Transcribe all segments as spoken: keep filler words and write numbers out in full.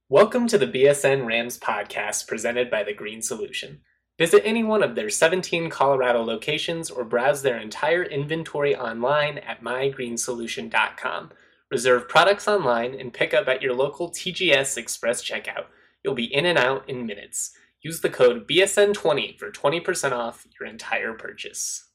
Welcome to the B S N Rams podcast presented by The Green Solution. Visit any one of their seventeen Colorado locations or browse their entire inventory online at my green solution dot com. Reserve products online and pick up at your local T G S Express checkout. You'll be in and out in minutes. Use the code B S N twenty for twenty percent off your entire purchase.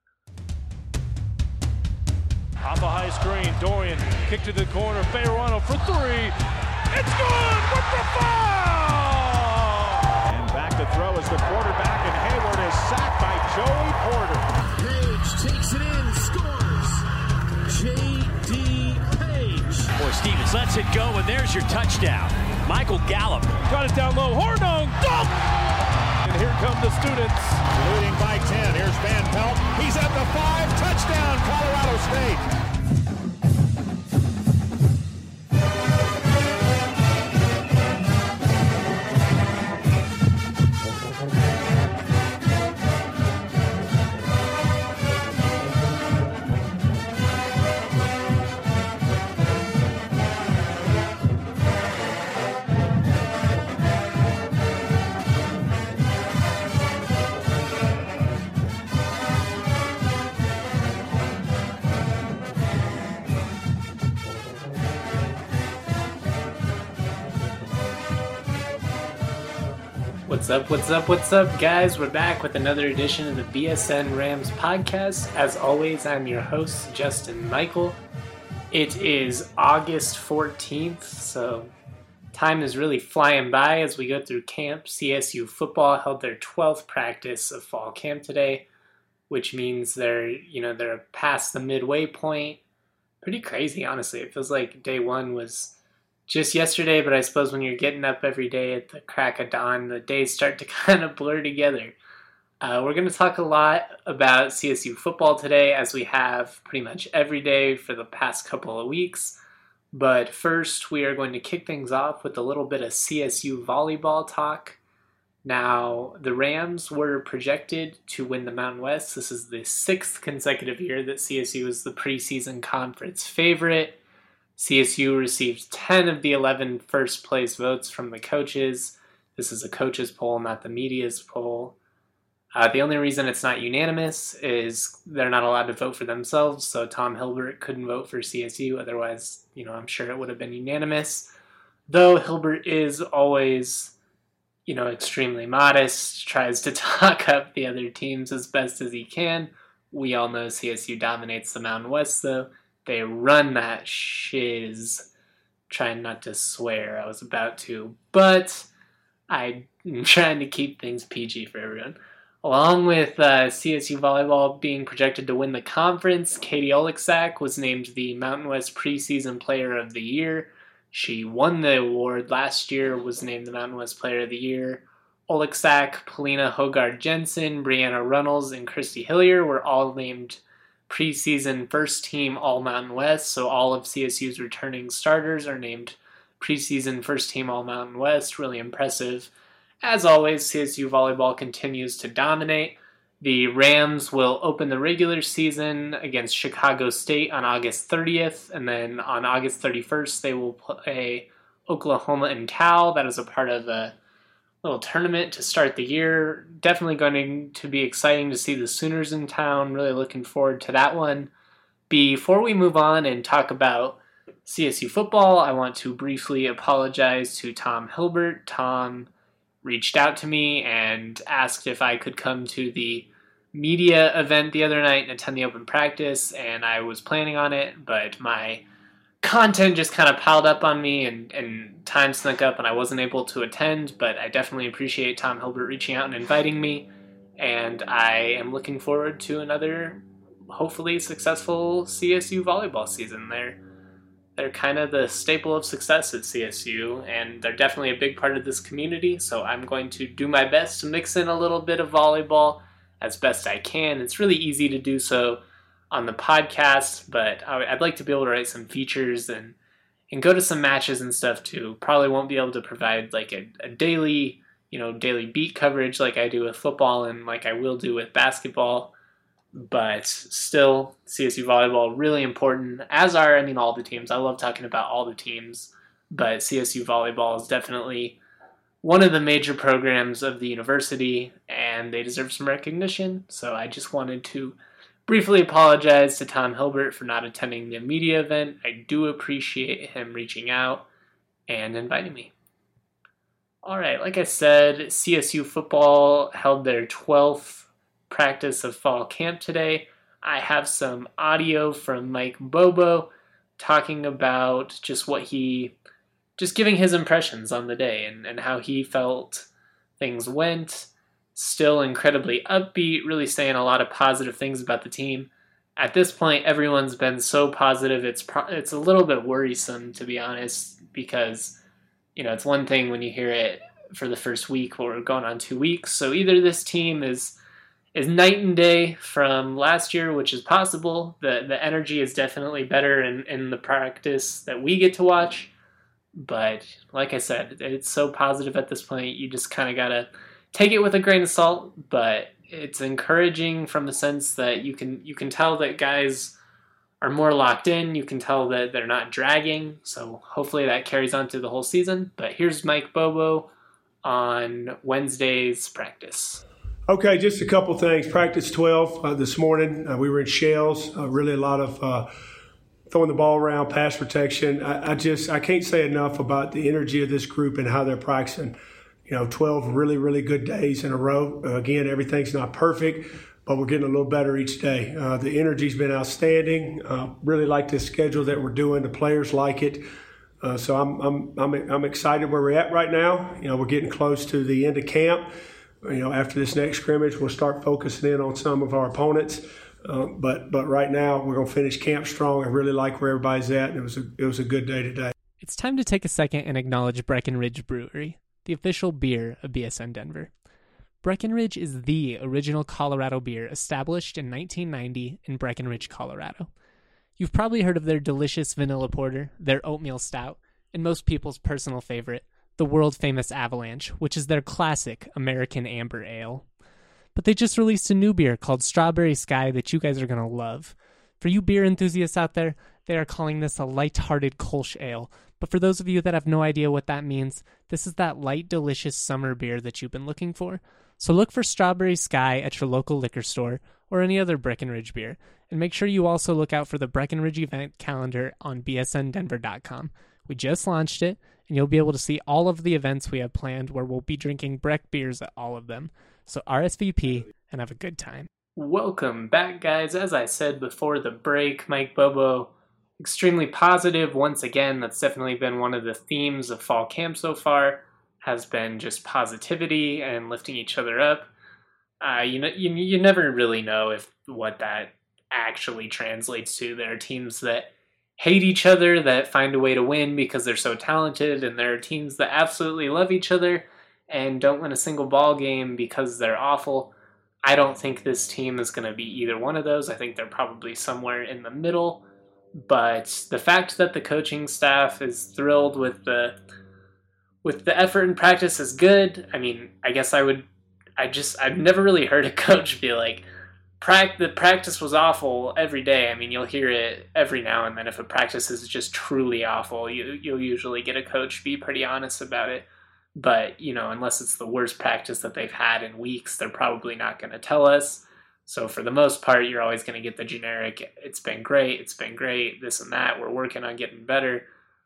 Off a high screen, Dorian, kick to the corner, Fayerano for three. It's good with the foul! And back to throw is the quarterback, and Hayward is sacked by Joey Porter. Page takes it in, scores. J D. Page. Boy, Stevens lets it go, and there's your touchdown. Michael Gallup. Got it down low, Hornung, dunk! And here come the students. Leading by ten, here's Van Pelt. He's at the five, touchdown, Colorado State. What's up, what's up, what's up, guys? We're back with another edition of the B S N Rams podcast. As always, I'm your host, Justin Michael. It is August fourteenth, so time is really flying by as we go through camp. C S U football held their twelfth practice of fall camp today, which means they're, you know, they're past the midway point. Pretty crazy, honestly. It feels like day one was just yesterday, but I suppose when you're getting up every day at the crack of dawn, the days start to kind of blur together. Uh, we're going to talk a lot about C S U football today, as we have pretty much every day for the past couple of weeks. But first, we are going to kick things off with a little bit of C S U volleyball talk. Now, the Rams were projected to win the Mountain West. This is the sixth consecutive year that C S U is the preseason conference favorite. C S U received ten of the eleven first place votes from the coaches. This is a coaches poll, not the media's poll. Uh, the only reason it's not unanimous is they're not allowed to vote for themselves, so Tom Hilbert couldn't vote for C S U. Otherwise, you know, I'm sure it would have been unanimous. Though Hilbert is always, you know, extremely modest, tries to talk up the other teams as best as he can. We all know C S U dominates the Mountain West, though. They run that shiz. Trying not to swear. I was about to. But I'm trying to keep things P G for everyone. Along with uh, C S U volleyball being projected to win the conference, Katie Oleksak was named the Mountain West Preseason Player of the Year. She won the award last year, was named the Mountain West Player of the Year. Oleksak, Polina Hogard-Jensen, Brianna Runnels, and Christy Hillier were all named preseason first team All-Mountain West, so all of C S U's returning starters are named preseason first team All-Mountain West. Really impressive. As always, C S U volleyball continues to dominate. The Rams will open the regular season against Chicago State on August thirtieth, and then on August thirty-first they will play Oklahoma and Cal. That is a part of a little tournament to start the year. Definitely going to be exciting to see the Sooners in town. Really looking forward to that one. Before we move on and talk about C S U football, I want to briefly apologize to Tom Hilbert. Tom reached out to me and asked if I could come to the media event the other night and attend the open practice, and I was planning on it, but my content just kind of piled up on me and, and time snuck up and I wasn't able to attend, but I definitely appreciate Tom Hilbert reaching out and inviting me, and I am looking forward to another hopefully successful C S U volleyball season. They're, they're kind of the staple of success at C S U, and they're definitely a big part of this community, so I'm going to do my best to mix in a little bit of volleyball as best I can. It's really easy to do so on the podcast, but I'd like to be able to write some features and and go to some matches and stuff too. Probably won't be able to provide like a, a daily, you know, daily beat coverage like I do with football and like I will do with basketball, but still, C S U volleyball really important, as are, I mean, all the teams. I love talking about all the teams, but C S U volleyball is definitely one of the major programs of the university, and they deserve some recognition. So I just wanted to briefly apologize to Tom Hilbert for not attending the media event. I do appreciate him reaching out and inviting me. All right, like I said, C S U football held their twelfth practice of fall camp today. I have some audio from Mike Bobo talking about just what he, just giving his impressions on the day and, and how he felt things went. Still incredibly upbeat, really saying a lot of positive things about the team. At this point, everyone's been so positive, it's pro- it's a little bit worrisome, to be honest, because, you know, it's one thing when you hear it for the first week, or going on two weeks. So either this team is is night and day from last year, which is possible. The the energy is definitely better in, in the practice that we get to watch. But like I said, it's so positive at this point, you just kind of got to take it with a grain of salt, but it's encouraging from the sense that you can you can tell that guys are more locked in. You can tell that they're not dragging, so hopefully that carries on through the whole season. But here's Mike Bobo on Wednesday's practice. Okay, just a couple things. Practice twelve uh, this morning. Uh, we were in shells. Uh, really a lot of uh, throwing the ball around, pass protection. I, I just I can't say enough about the energy of this group and how they're practicing. You know, twelve really, really good days in a row. Uh, again, everything's not perfect, but we're getting a little better each day. Uh, the energy's been outstanding. Uh, really like this schedule that we're doing. The players like it. Uh, so I'm, I'm I'm I'm excited where we're at right now. You know, we're getting close to the end of camp. You know, after this next scrimmage, we'll start focusing in on some of our opponents. Uh, but but right now, we're gonna finish camp strong. I really like where everybody's at, and it was a it was a good day today. It's time to take a second and acknowledge Breckenridge Brewery, the official beer of B S N Denver. Breckenridge is the original Colorado beer established in nineteen ninety in Breckenridge, Colorado. You've probably heard of their delicious vanilla porter, their oatmeal stout, and most people's personal favorite, the world-famous Avalanche, which is their classic American Amber Ale. But they just released a new beer called Strawberry Sky that you guys are going to love. For you beer enthusiasts out there, they are calling this a light-hearted Kolsch Ale. But for those of you that have no idea what that means, this is that light, delicious summer beer that you've been looking for. So look for Strawberry Sky at your local liquor store or any other Breckenridge beer. And make sure you also look out for the Breckenridge event calendar on b s n denver dot com. We just launched it, and you'll be able to see all of the events we have planned where we'll be drinking Breck beers at all of them. So R S V P and have a good time. Welcome back, guys. As I said before the break, Mike Bobo, extremely positive. Once again, that's definitely been one of the themes of fall camp so far, has been just positivity and lifting each other up. Uh, you know, you, you never really know if what that actually translates to. There are teams that hate each other that find a way to win because they're so talented, and there are teams that absolutely love each other and don't win a single ball game because they're awful. I don't think this team is going to be either one of those. I think they're probably somewhere in the middle. But the fact that the coaching staff is thrilled with the with the effort in practice is good. I mean, I guess I would, I just, I've never really heard a coach be like, Pract- the practice was awful every day. I mean, you'll hear it every now and then. If a practice is just truly awful, you, you'll usually get a coach be pretty honest about it. But, you know, unless it's the worst practice that they've had in weeks, they're probably not going to tell us. So for the most part, you're always going to get the generic, it's been great, it's been great, this and that, we're working on getting better.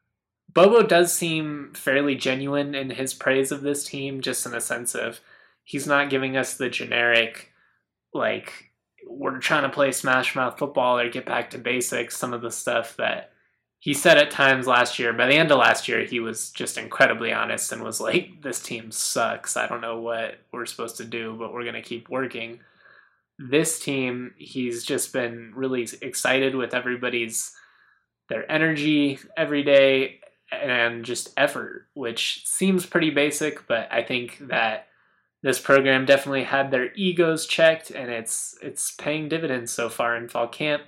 Bobo does seem fairly genuine in his praise of this team, just in a sense of he's not giving us the generic, like, we're trying to play smash mouth football or get back to basics, some of the stuff that he said at times last year. By the end of last year, he was just incredibly honest and was like, this team sucks. I don't know what we're supposed to do, but we're going to keep working. This team, he's just been really excited with everybody's, their energy every day and just effort, which seems pretty basic, but I think that this program definitely had their egos checked, and it's it's paying dividends so far in fall camp.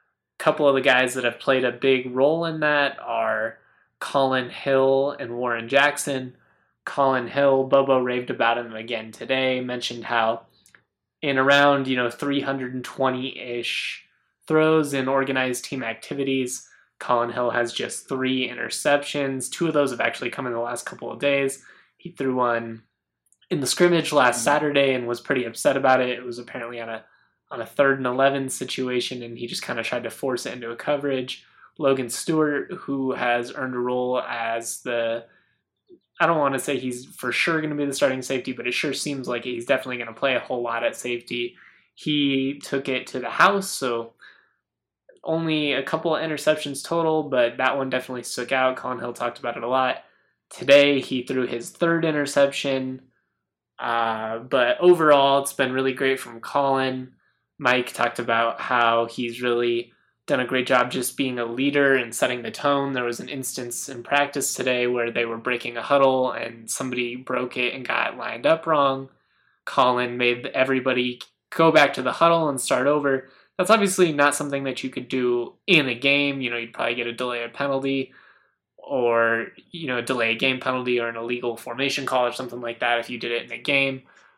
A couple of the guys that have played a big role in that are Colin Hill and Warren Jackson. Colin Hill, Bobo raved about him again today, mentioned how in around, you know, three hundred twenty-ish throws in organized team activities, Colin Hill has just three interceptions. Two of those have actually come in the last couple of days. He threw one in the scrimmage last Saturday and was pretty upset about it. It was apparently on a on a third and eleven situation, and he just kind of tried to force it into a coverage. Logan Stewart, who has earned a role as the, I don't want to say he's for sure going to be the starting safety, but it sure seems like he's definitely going to play a whole lot at safety. He took it to the house, so only a couple of interceptions total, but that one definitely stuck out. Colin Hill talked about it a lot. Today, he threw his third interception, uh, but overall, it's been really great from Colin. Mike talked about how he's really done a great job just being a leader and setting the tone. There was an instance in practice today where they were breaking a huddle and somebody broke it and got lined up wrong. Colin made everybody go back to the huddle and start over. That's obviously not something that you could do in a game. You know, you'd probably get a delay of penalty or, you know, a delay a game penalty or an illegal formation call or something like that if you did it in a game.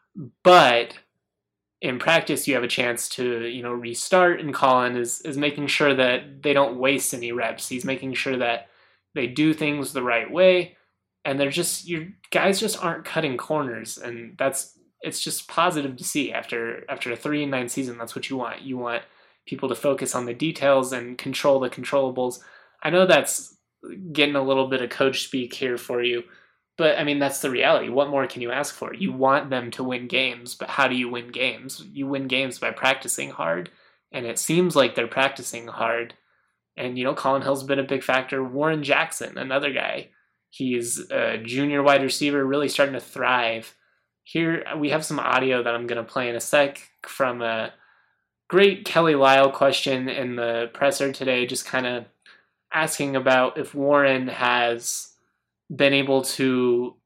But in practice, you have a chance to, you know, restart, and Colin is, is making sure that they don't waste any reps. He's making sure that they do things the right way, and they're just, your guys just aren't cutting corners, and that's, it's just positive to see after after a three and nine season. That's what you want. You want people to focus on the details and control the controllables. I know that's getting a little bit of coach speak here for you, but I mean, that's the reality. What more can you ask for? You want them to win games, but how do you win games? You win games by practicing hard, and it seems like they're practicing hard. And, you know, Colin Hill's been a big factor. Warren Jackson, another guy. He's a junior wide receiver, really starting to thrive. Here we have some audio that I'm going to play in a sec from a great Kelly Lyle question in the presser today, just kind of asking about if Warren has been able to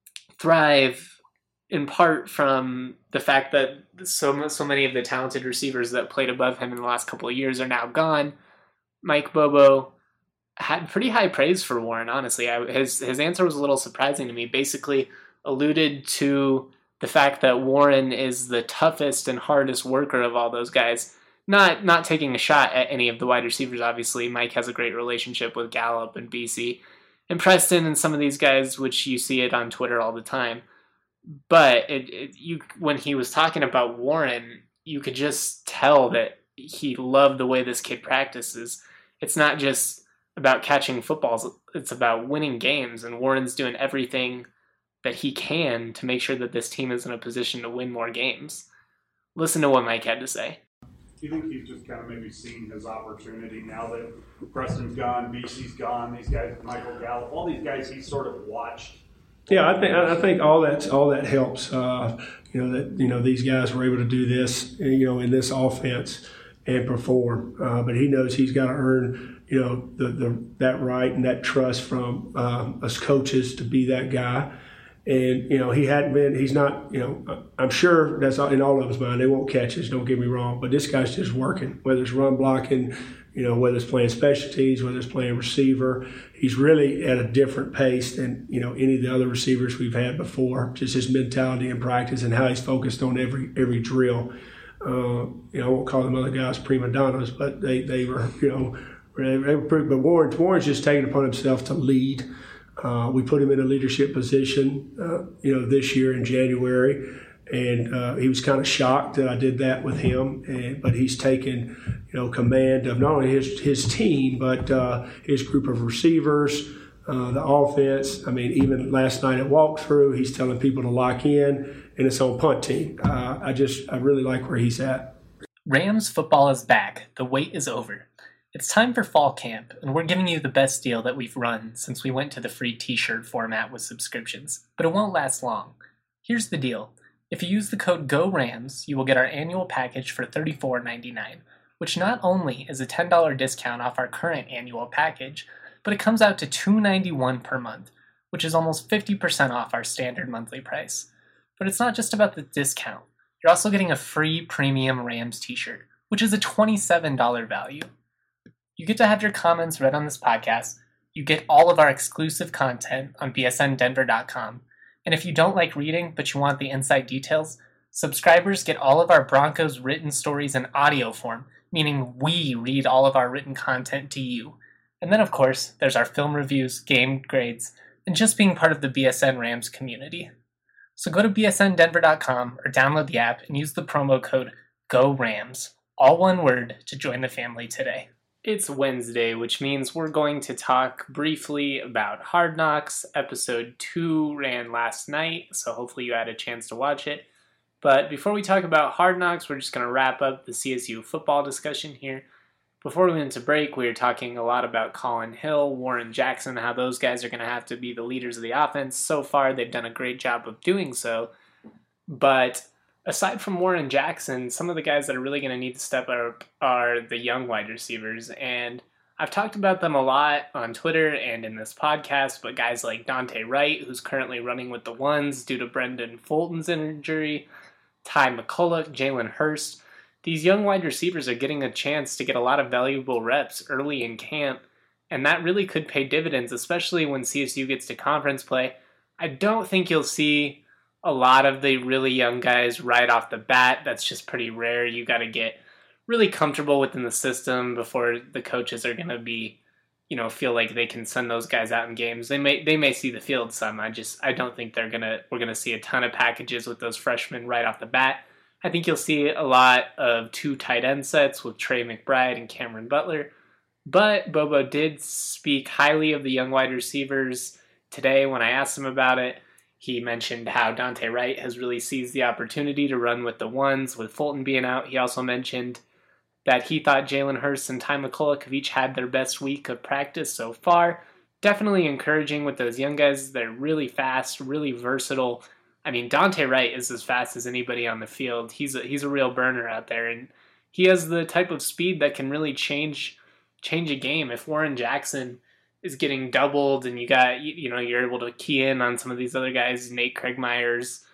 thrive in part from the fact that so so many of the talented receivers that played above him in the last couple of years are now gone. Mike Bobo had pretty high praise for Warren, honestly. I, his his answer was a little surprising to me. Basically alluded to the fact that Warren is the toughest and hardest worker of all those guys. Not not taking a shot at any of the wide receivers, obviously. Mike has a great relationship with Gallup and B C and Preston and some of these guys, which you see it on Twitter all the time. But it, it, you, when he was talking about Warren, you could just tell that he loved the way this kid practices. It's not just about catching footballs. It's about winning games, and Warren's doing everything that he can to make sure that this team is in a position to win more games. Listen to what Mike had to say. Do you think he's just kind of maybe seen his opportunity now that Preston's gone, B C's gone, these guys, Michael Gallup, all these guys he's sort of watched? Yeah, I think I think all that all that helps. Uh, you know that you know these guys were able to do this, you know, in this offense and perform. Uh, but he knows he's got to earn, you know, the, the that right and that trust from uh, us coaches to be that guy. And, you know, he hadn't been, he's not, you know, I'm sure that's in all of his mind. They won't catch us, don't get me wrong. But this guy's just working, whether it's run blocking, you know, whether it's playing specialties, whether it's playing receiver. He's really at a different pace than, you know, any of the other receivers we've had before. Just his mentality in practice and how he's focused on every every drill. Uh, you know, I won't call them other guys prima donnas, but they, they were, you know, they were pretty, but Warren, Warren's just taking it upon himself to lead. Uh, we put him in a leadership position, uh, you know, this year in January, and uh, he was kind of shocked that I did that with him. And, but he's taken, you know, command of not only his his team but uh, his group of receivers, uh, the offense. I mean, even last night at walkthrough, he's telling people to lock in, and it's on punt team. Uh, I just I really like where he's at. Rams football is back. The wait is over. It's time for fall camp, and we're giving you the best deal that we've run since we went to the free t-shirt format with subscriptions, but it won't last long. Here's the deal. If you use the code GORAMS, you will get our annual package for thirty-four ninety-nine, which not only is a ten dollars discount off our current annual package, but it comes out to two ninety-one per month, which is almost fifty percent off our standard monthly price. But it's not just about the discount. You're also getting a free premium Rams t-shirt, which is a twenty-seven dollars value. You get to have your comments read on this podcast. You get all of our exclusive content on B S N Denver dot com. And if you don't like reading, but you want the inside details, subscribers get all of our Broncos written stories in audio form, meaning we read all of our written content to you. And then, of course, there's our film reviews, game grades, and just being part of the B S N Rams community. So go to b s n denver dot com or download the app and use the promo code GORAMS, all one word, to join the family today. It's Wednesday, which means we're going to talk briefly about Hard Knocks. Episode two ran last night, so hopefully you had a chance to watch it. But before we talk about Hard Knocks, we're just going to wrap up the C S U football discussion here. Before we went into break, we were talking a lot about Colin Hill, Warren Jackson, how those guys are going to have to be the leaders of the offense. So far, they've done a great job of doing so. But aside from Warren Jackson, some of the guys that are really going to need to step up are the young wide receivers. And I've talked about them a lot on Twitter and in this podcast, but guys like Dante Wright, who's currently running with the ones due to Brendan Fulton's injury, Ty McCulloch, Jalen Hurst. These young wide receivers are getting a chance to get a lot of valuable reps early in camp, and that really could pay dividends, especially when C S U gets to conference play. I don't think you'll see a lot of the really young guys right off the bat. That's just pretty rare. You got to get really comfortable within the system before the coaches are going to be, you know, feel like they can send those guys out in games. They may they may see the field some. I just I don't think they're gonna we're gonna see a ton of packages with those freshmen right off the bat. I think you'll see a lot of two tight end sets with Trey McBride and Cameron Butler. But Bobo did speak highly of the young wide receivers today when I asked him about it. He mentioned how Dante Wright has really seized the opportunity to run with the ones, with Fulton being out. He also mentioned that he thought Jalen Hurst and Ty McCulloch have each had their best week of practice so far. Definitely encouraging with those young guys. They're really fast, really versatile. I mean, Dante Wright is as fast as anybody on the field. He's a, he's a real burner out there, and he has the type of speed that can really change change a game. If Warren Jackson is getting doubled and you got, you know, you're able to key in on some of these other guys, Nate Craig Myers,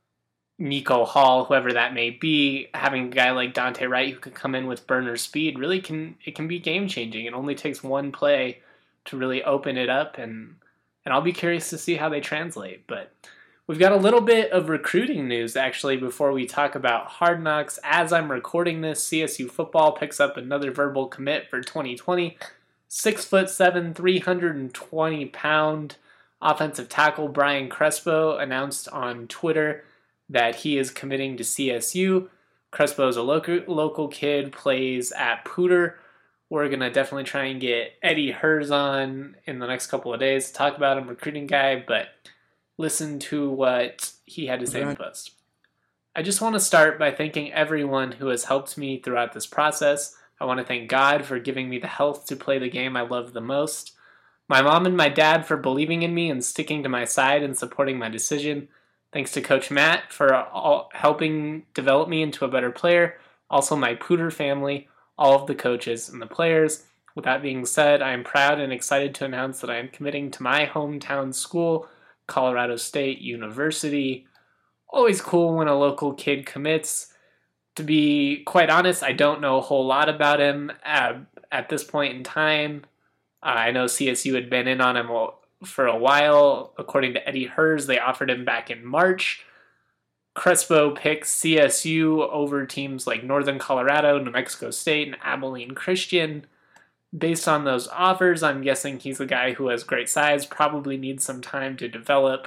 Nico Hall, whoever that may be, having a guy like Dante Wright who can come in with burner speed really can, it can be game changing. It only takes one play to really open it up, and and I'll be curious to see how they translate. But we've got a little bit of recruiting news, actually, before we talk about Hard Knocks. As I'm recording this, C S U football picks up another verbal commit for twenty twenty. Six foot seven, three hundred twenty pound offensive tackle Brian Crespo announced on Twitter that he is committing to C S U. Crespo is a local, local kid, plays at Pooter. We're going to definitely try and get Eddie Hers on in the next couple of days to talk about him, recruiting guy, but listen to what he had to say in the post. I just want to start by thanking everyone who has helped me throughout this process. I want to thank God for giving me the health to play the game I love the most. My mom and my dad for believing in me and sticking to my side and supporting my decision. Thanks to Coach Matt for all, helping develop me into a better player. Also my Pooter family, all of the coaches and the players. With that being said, I am proud and excited to announce that I am committing to my hometown school, Colorado State University. Always cool when a local kid commits. To be quite honest, I don't know a whole lot about him at, at this point in time. Uh, I know C S U had been in on him for a while. According to Eddie Hers, they offered him back in March. Crespo picks C S U over teams like Northern Colorado, New Mexico State, and Abilene Christian. Based on those offers, I'm guessing he's a guy who has great size, probably needs some time to develop.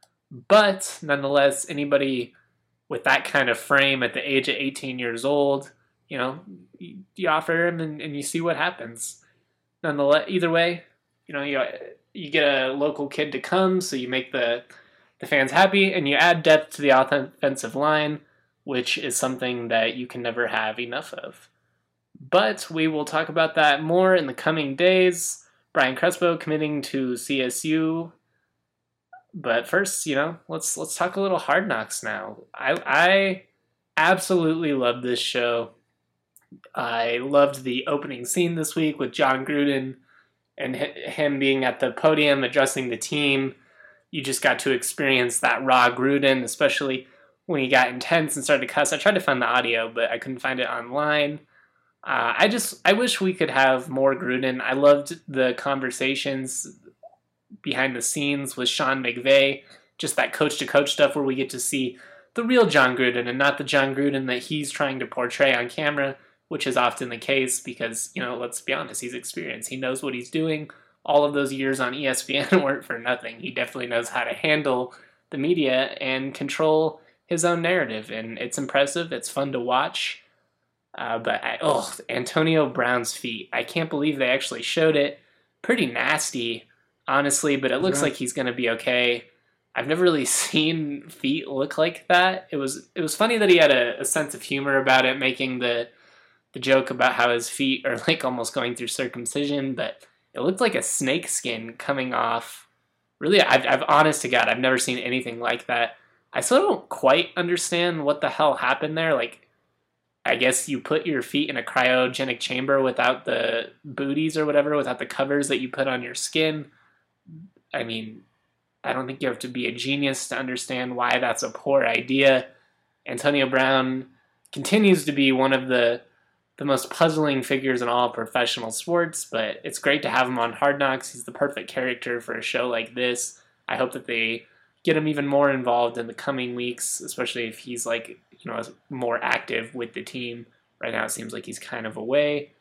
But nonetheless, anybody with that kind of frame at the age of eighteen years old, you know, you, you offer him and, and you see what happens. Nonetheless, either way, you know, you you get a local kid to come, so you make the the fans happy, and you add depth to the offensive line, which is something that you can never have enough of. But we will talk about that more in the coming days. Brian Crespo committing to C S U. But first, you know, let's let's talk a little Hard Knocks now. I I absolutely love this show. I loved the opening scene this week with John Gruden and him being at the podium addressing the team. You just got to experience that raw Gruden, especially when he got intense and started to cuss. I tried to find the audio, but I couldn't find it online. Uh, I just I wish we could have more Gruden. I loved the conversations behind the scenes with Sean McVay, just that coach-to-coach stuff where we get to see the real John Gruden and not the John Gruden that he's trying to portray on camera. which is often the case because, you know, let's be honest, he's experienced. He knows what he's doing. All of those years on E S P N weren't for nothing. He definitely knows how to handle the media and control his own narrative, and it's impressive. It's fun to watch. Uh, but, I, oh, Antonio Brown's feet. I can't believe they actually showed it. Pretty nasty, honestly, but it looks Yeah. like he's going to be okay. I've never really seen feet look like that. It was it was funny that he had a, a sense of humor about it, making the the joke about how his feet are like almost going through circumcision, but it looked like a snake skin coming off. Really, I've, I've honest to God, I've never seen anything like that. I still don't quite understand what the hell happened there. Like, I guess you put your feet in a cryogenic chamber without the booties or whatever, without the covers that you put on your skin. I mean, I don't think you have to be a genius to understand why that's a poor idea. Antonio Brown continues to be one of the the most puzzling figures in all professional sports, but it's great to have him on Hard Knocks. He's the perfect character for a show like this. I hope that they get him even more involved in the coming weeks, especially if he's like, you know, more active with the team. Right now it seems like he's kind of away. It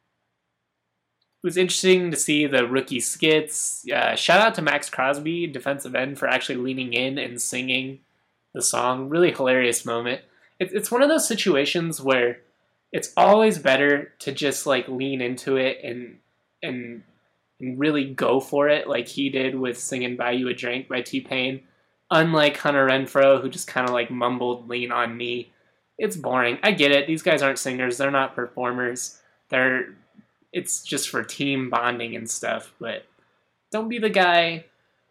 was interesting to see the rookie skits. Uh, shout out to Max Crosby, defensive end, for actually leaning in and singing the song. Really hilarious moment. It, it's one of those situations where it's always better to just like lean into it and and and really go for it, like he did with singing "Buy You a Drink" by T-Pain. Unlike Hunter Renfrow, who just kind of like mumbled "Lean on Me." It's boring. I get it. These guys aren't singers. They're not performers. They're it's just for team bonding and stuff. But don't be the guy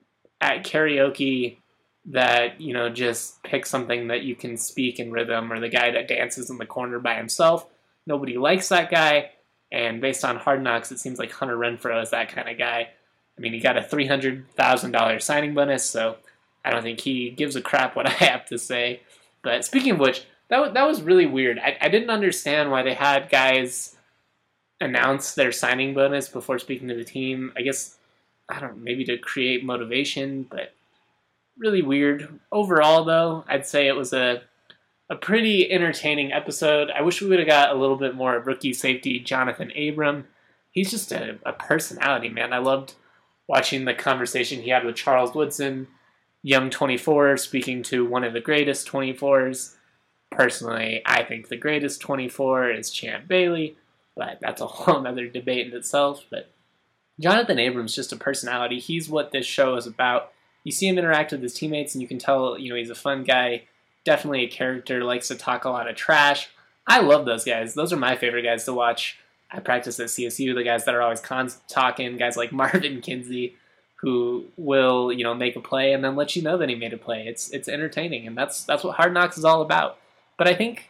at karaoke that, you know, just pick something that you can speak in rhythm, or the guy that dances in the corner by himself. Nobody likes that guy, and based on Hard Knocks, it seems like Hunter Renfrow is that kind of guy. I mean, he got a three hundred thousand dollars signing bonus, so I don't think he gives a crap what I have to say. But speaking of which, that was, that was really weird. I, I didn't understand why they had guys announce their signing bonus before speaking to the team. I guess, I don't know, maybe to create motivation, but really weird. Overall, though, I'd say it was a a pretty entertaining episode. I wish we would have got a little bit more of rookie safety Jonathan Abram. He's just a, a personality, man. I loved watching the conversation he had with Charles Woodson, young twenty-four, speaking to one of the greatest twenty-fours. Personally, I think the greatest twenty-four is Champ Bailey, but that's a whole other debate in itself. But Jonathan Abram's just a personality. He's what this show is about. You see him interact with his teammates, and you can tell, you know, he's a fun guy. Definitely a character, likes to talk a lot of trash. I love those guys. Those are my favorite guys to watch. I practice at C S U, the guys that are always cons talking, guys like Marvin Kinsey, who will, you know, make a play and then let you know that he made a play. It's it's entertaining, and that's that's what Hard Knocks is all about. But I think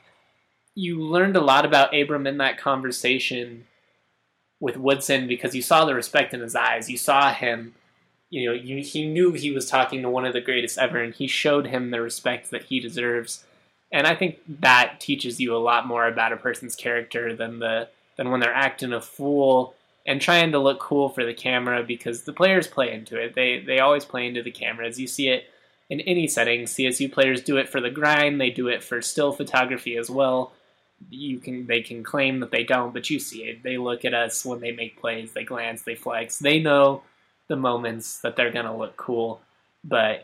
you learned a lot about Abram in that conversation with Woodson because you saw the respect in his eyes. You saw him, you know, you, he knew he was talking to one of the greatest ever, and he showed him the respect that he deserves. And I think that teaches you a lot more about a person's character than the than when they're acting a fool and trying to look cool for the camera, because the players play into it. They they always play into the cameras. You see it in any setting. C S U players do it for the grind. They do it for still photography as well. You can they can claim that they don't, but you see it. They look at us when they make plays. They glance. They flex. They know the moments that they're going to look cool. But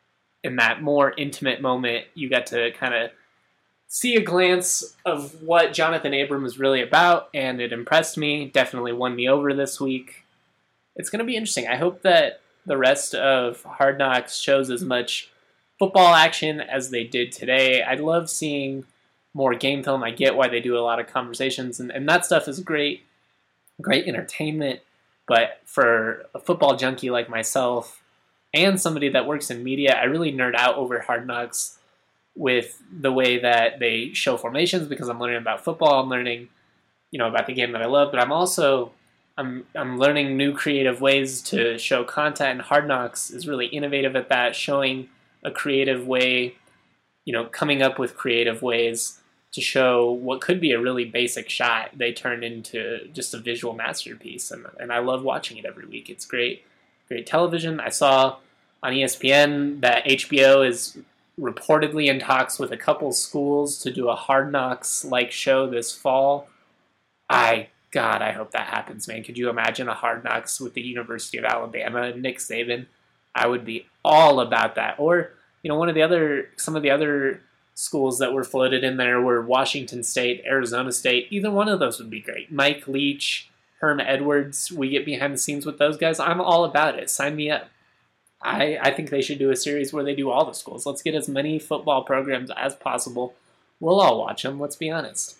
in that more intimate moment, you got to kind of see a glance of what Jonathan Abram is really about, and it impressed me. Definitely won me over this week. It's going to be interesting. I hope that the rest of Hard Knocks shows as much football action as they did today. I'd love seeing more game film. I get why they do a lot of conversations, and, and that stuff is great, great entertainment. But for a football junkie like myself and somebody that works in media, I really nerd out over Hard Knocks with the way that they show formations, because I'm learning about football. I'm learning, you know, about the game that I love, but I'm also I'm I'm learning new creative ways to show content, and Hard Knocks is really innovative at that, showing a creative way, you know, coming up with creative ways to show what could be a really basic shot. They turn into just a visual masterpiece, and and I love watching it every week. It's great, great television. I saw on E S P N that H B O is reportedly in talks with a couple schools to do a Hard Knocks-like show this fall. I, God, I hope that happens, man. Could you imagine a Hard Knocks with the University of Alabama and Nick Saban? I would be all about that. Or, you know, one of the other, some of the other schools that were floated in there were Washington State, Arizona State. Either one of those would be great. Mike Leach, Herm Edwards, we get behind the scenes with those guys. I'm all about it. Sign me up. I, I think they should do a series where they do all the schools. Let's get as many football programs as possible. We'll all watch them, let's be honest.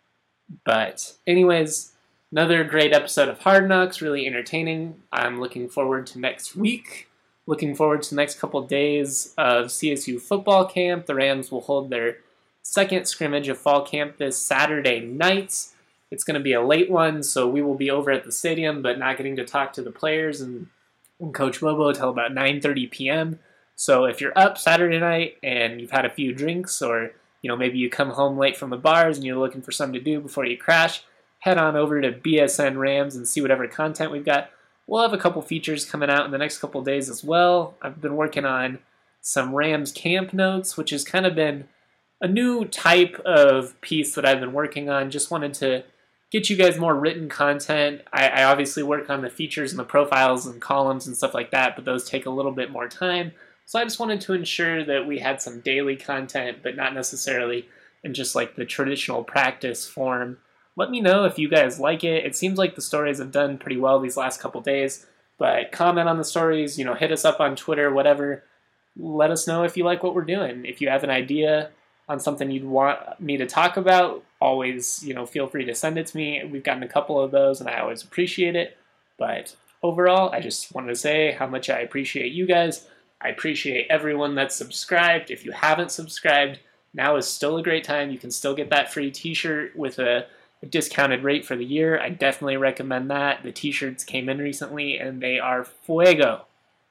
But anyways, another great episode of Hard Knocks, really entertaining. I'm looking forward to next week. Looking forward to the next couple days of C S U football camp. The Rams will hold their second scrimmage of fall camp this Saturday night. It's going to be a late one, so we will be over at the stadium, but not getting to talk to the players and, and Coach Bobo until about nine thirty p.m. So if you're up Saturday night and you've had a few drinks, or you know maybe you come home late from the bars and you're looking for something to do before you crash, head on over to B S N Rams and see whatever content we've got. We'll have a couple features coming out in the next couple days as well. I've been working on some Rams camp notes, which has kind of been a new type of piece that I've been working on. Just wanted to get you guys more written content. I, I obviously work on the features and the profiles and columns and stuff like that, but those take a little bit more time. So I just wanted to ensure that we had some daily content, but not necessarily in just like the traditional practice form. Let me know if you guys like it. It seems like the stories have done pretty well these last couple days, but comment on the stories, you know, hit us up on Twitter, whatever. Let us know if you like what we're doing. If you have an idea on something you'd want me to talk about, always, you know, feel free to send it to me. We've gotten a couple of those, and I always appreciate it. But overall, I just wanted to say how much I appreciate you guys. I appreciate everyone that's subscribed. If you haven't subscribed, now is still a great time. You can still get that free t-shirt with a A discounted rate for the year. I definitely recommend that. The t-shirts came in recently and they are fuego.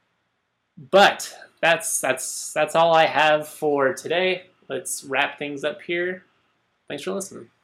But that's that's that's all I have for today. Let's wrap things up here. Thanks for listening.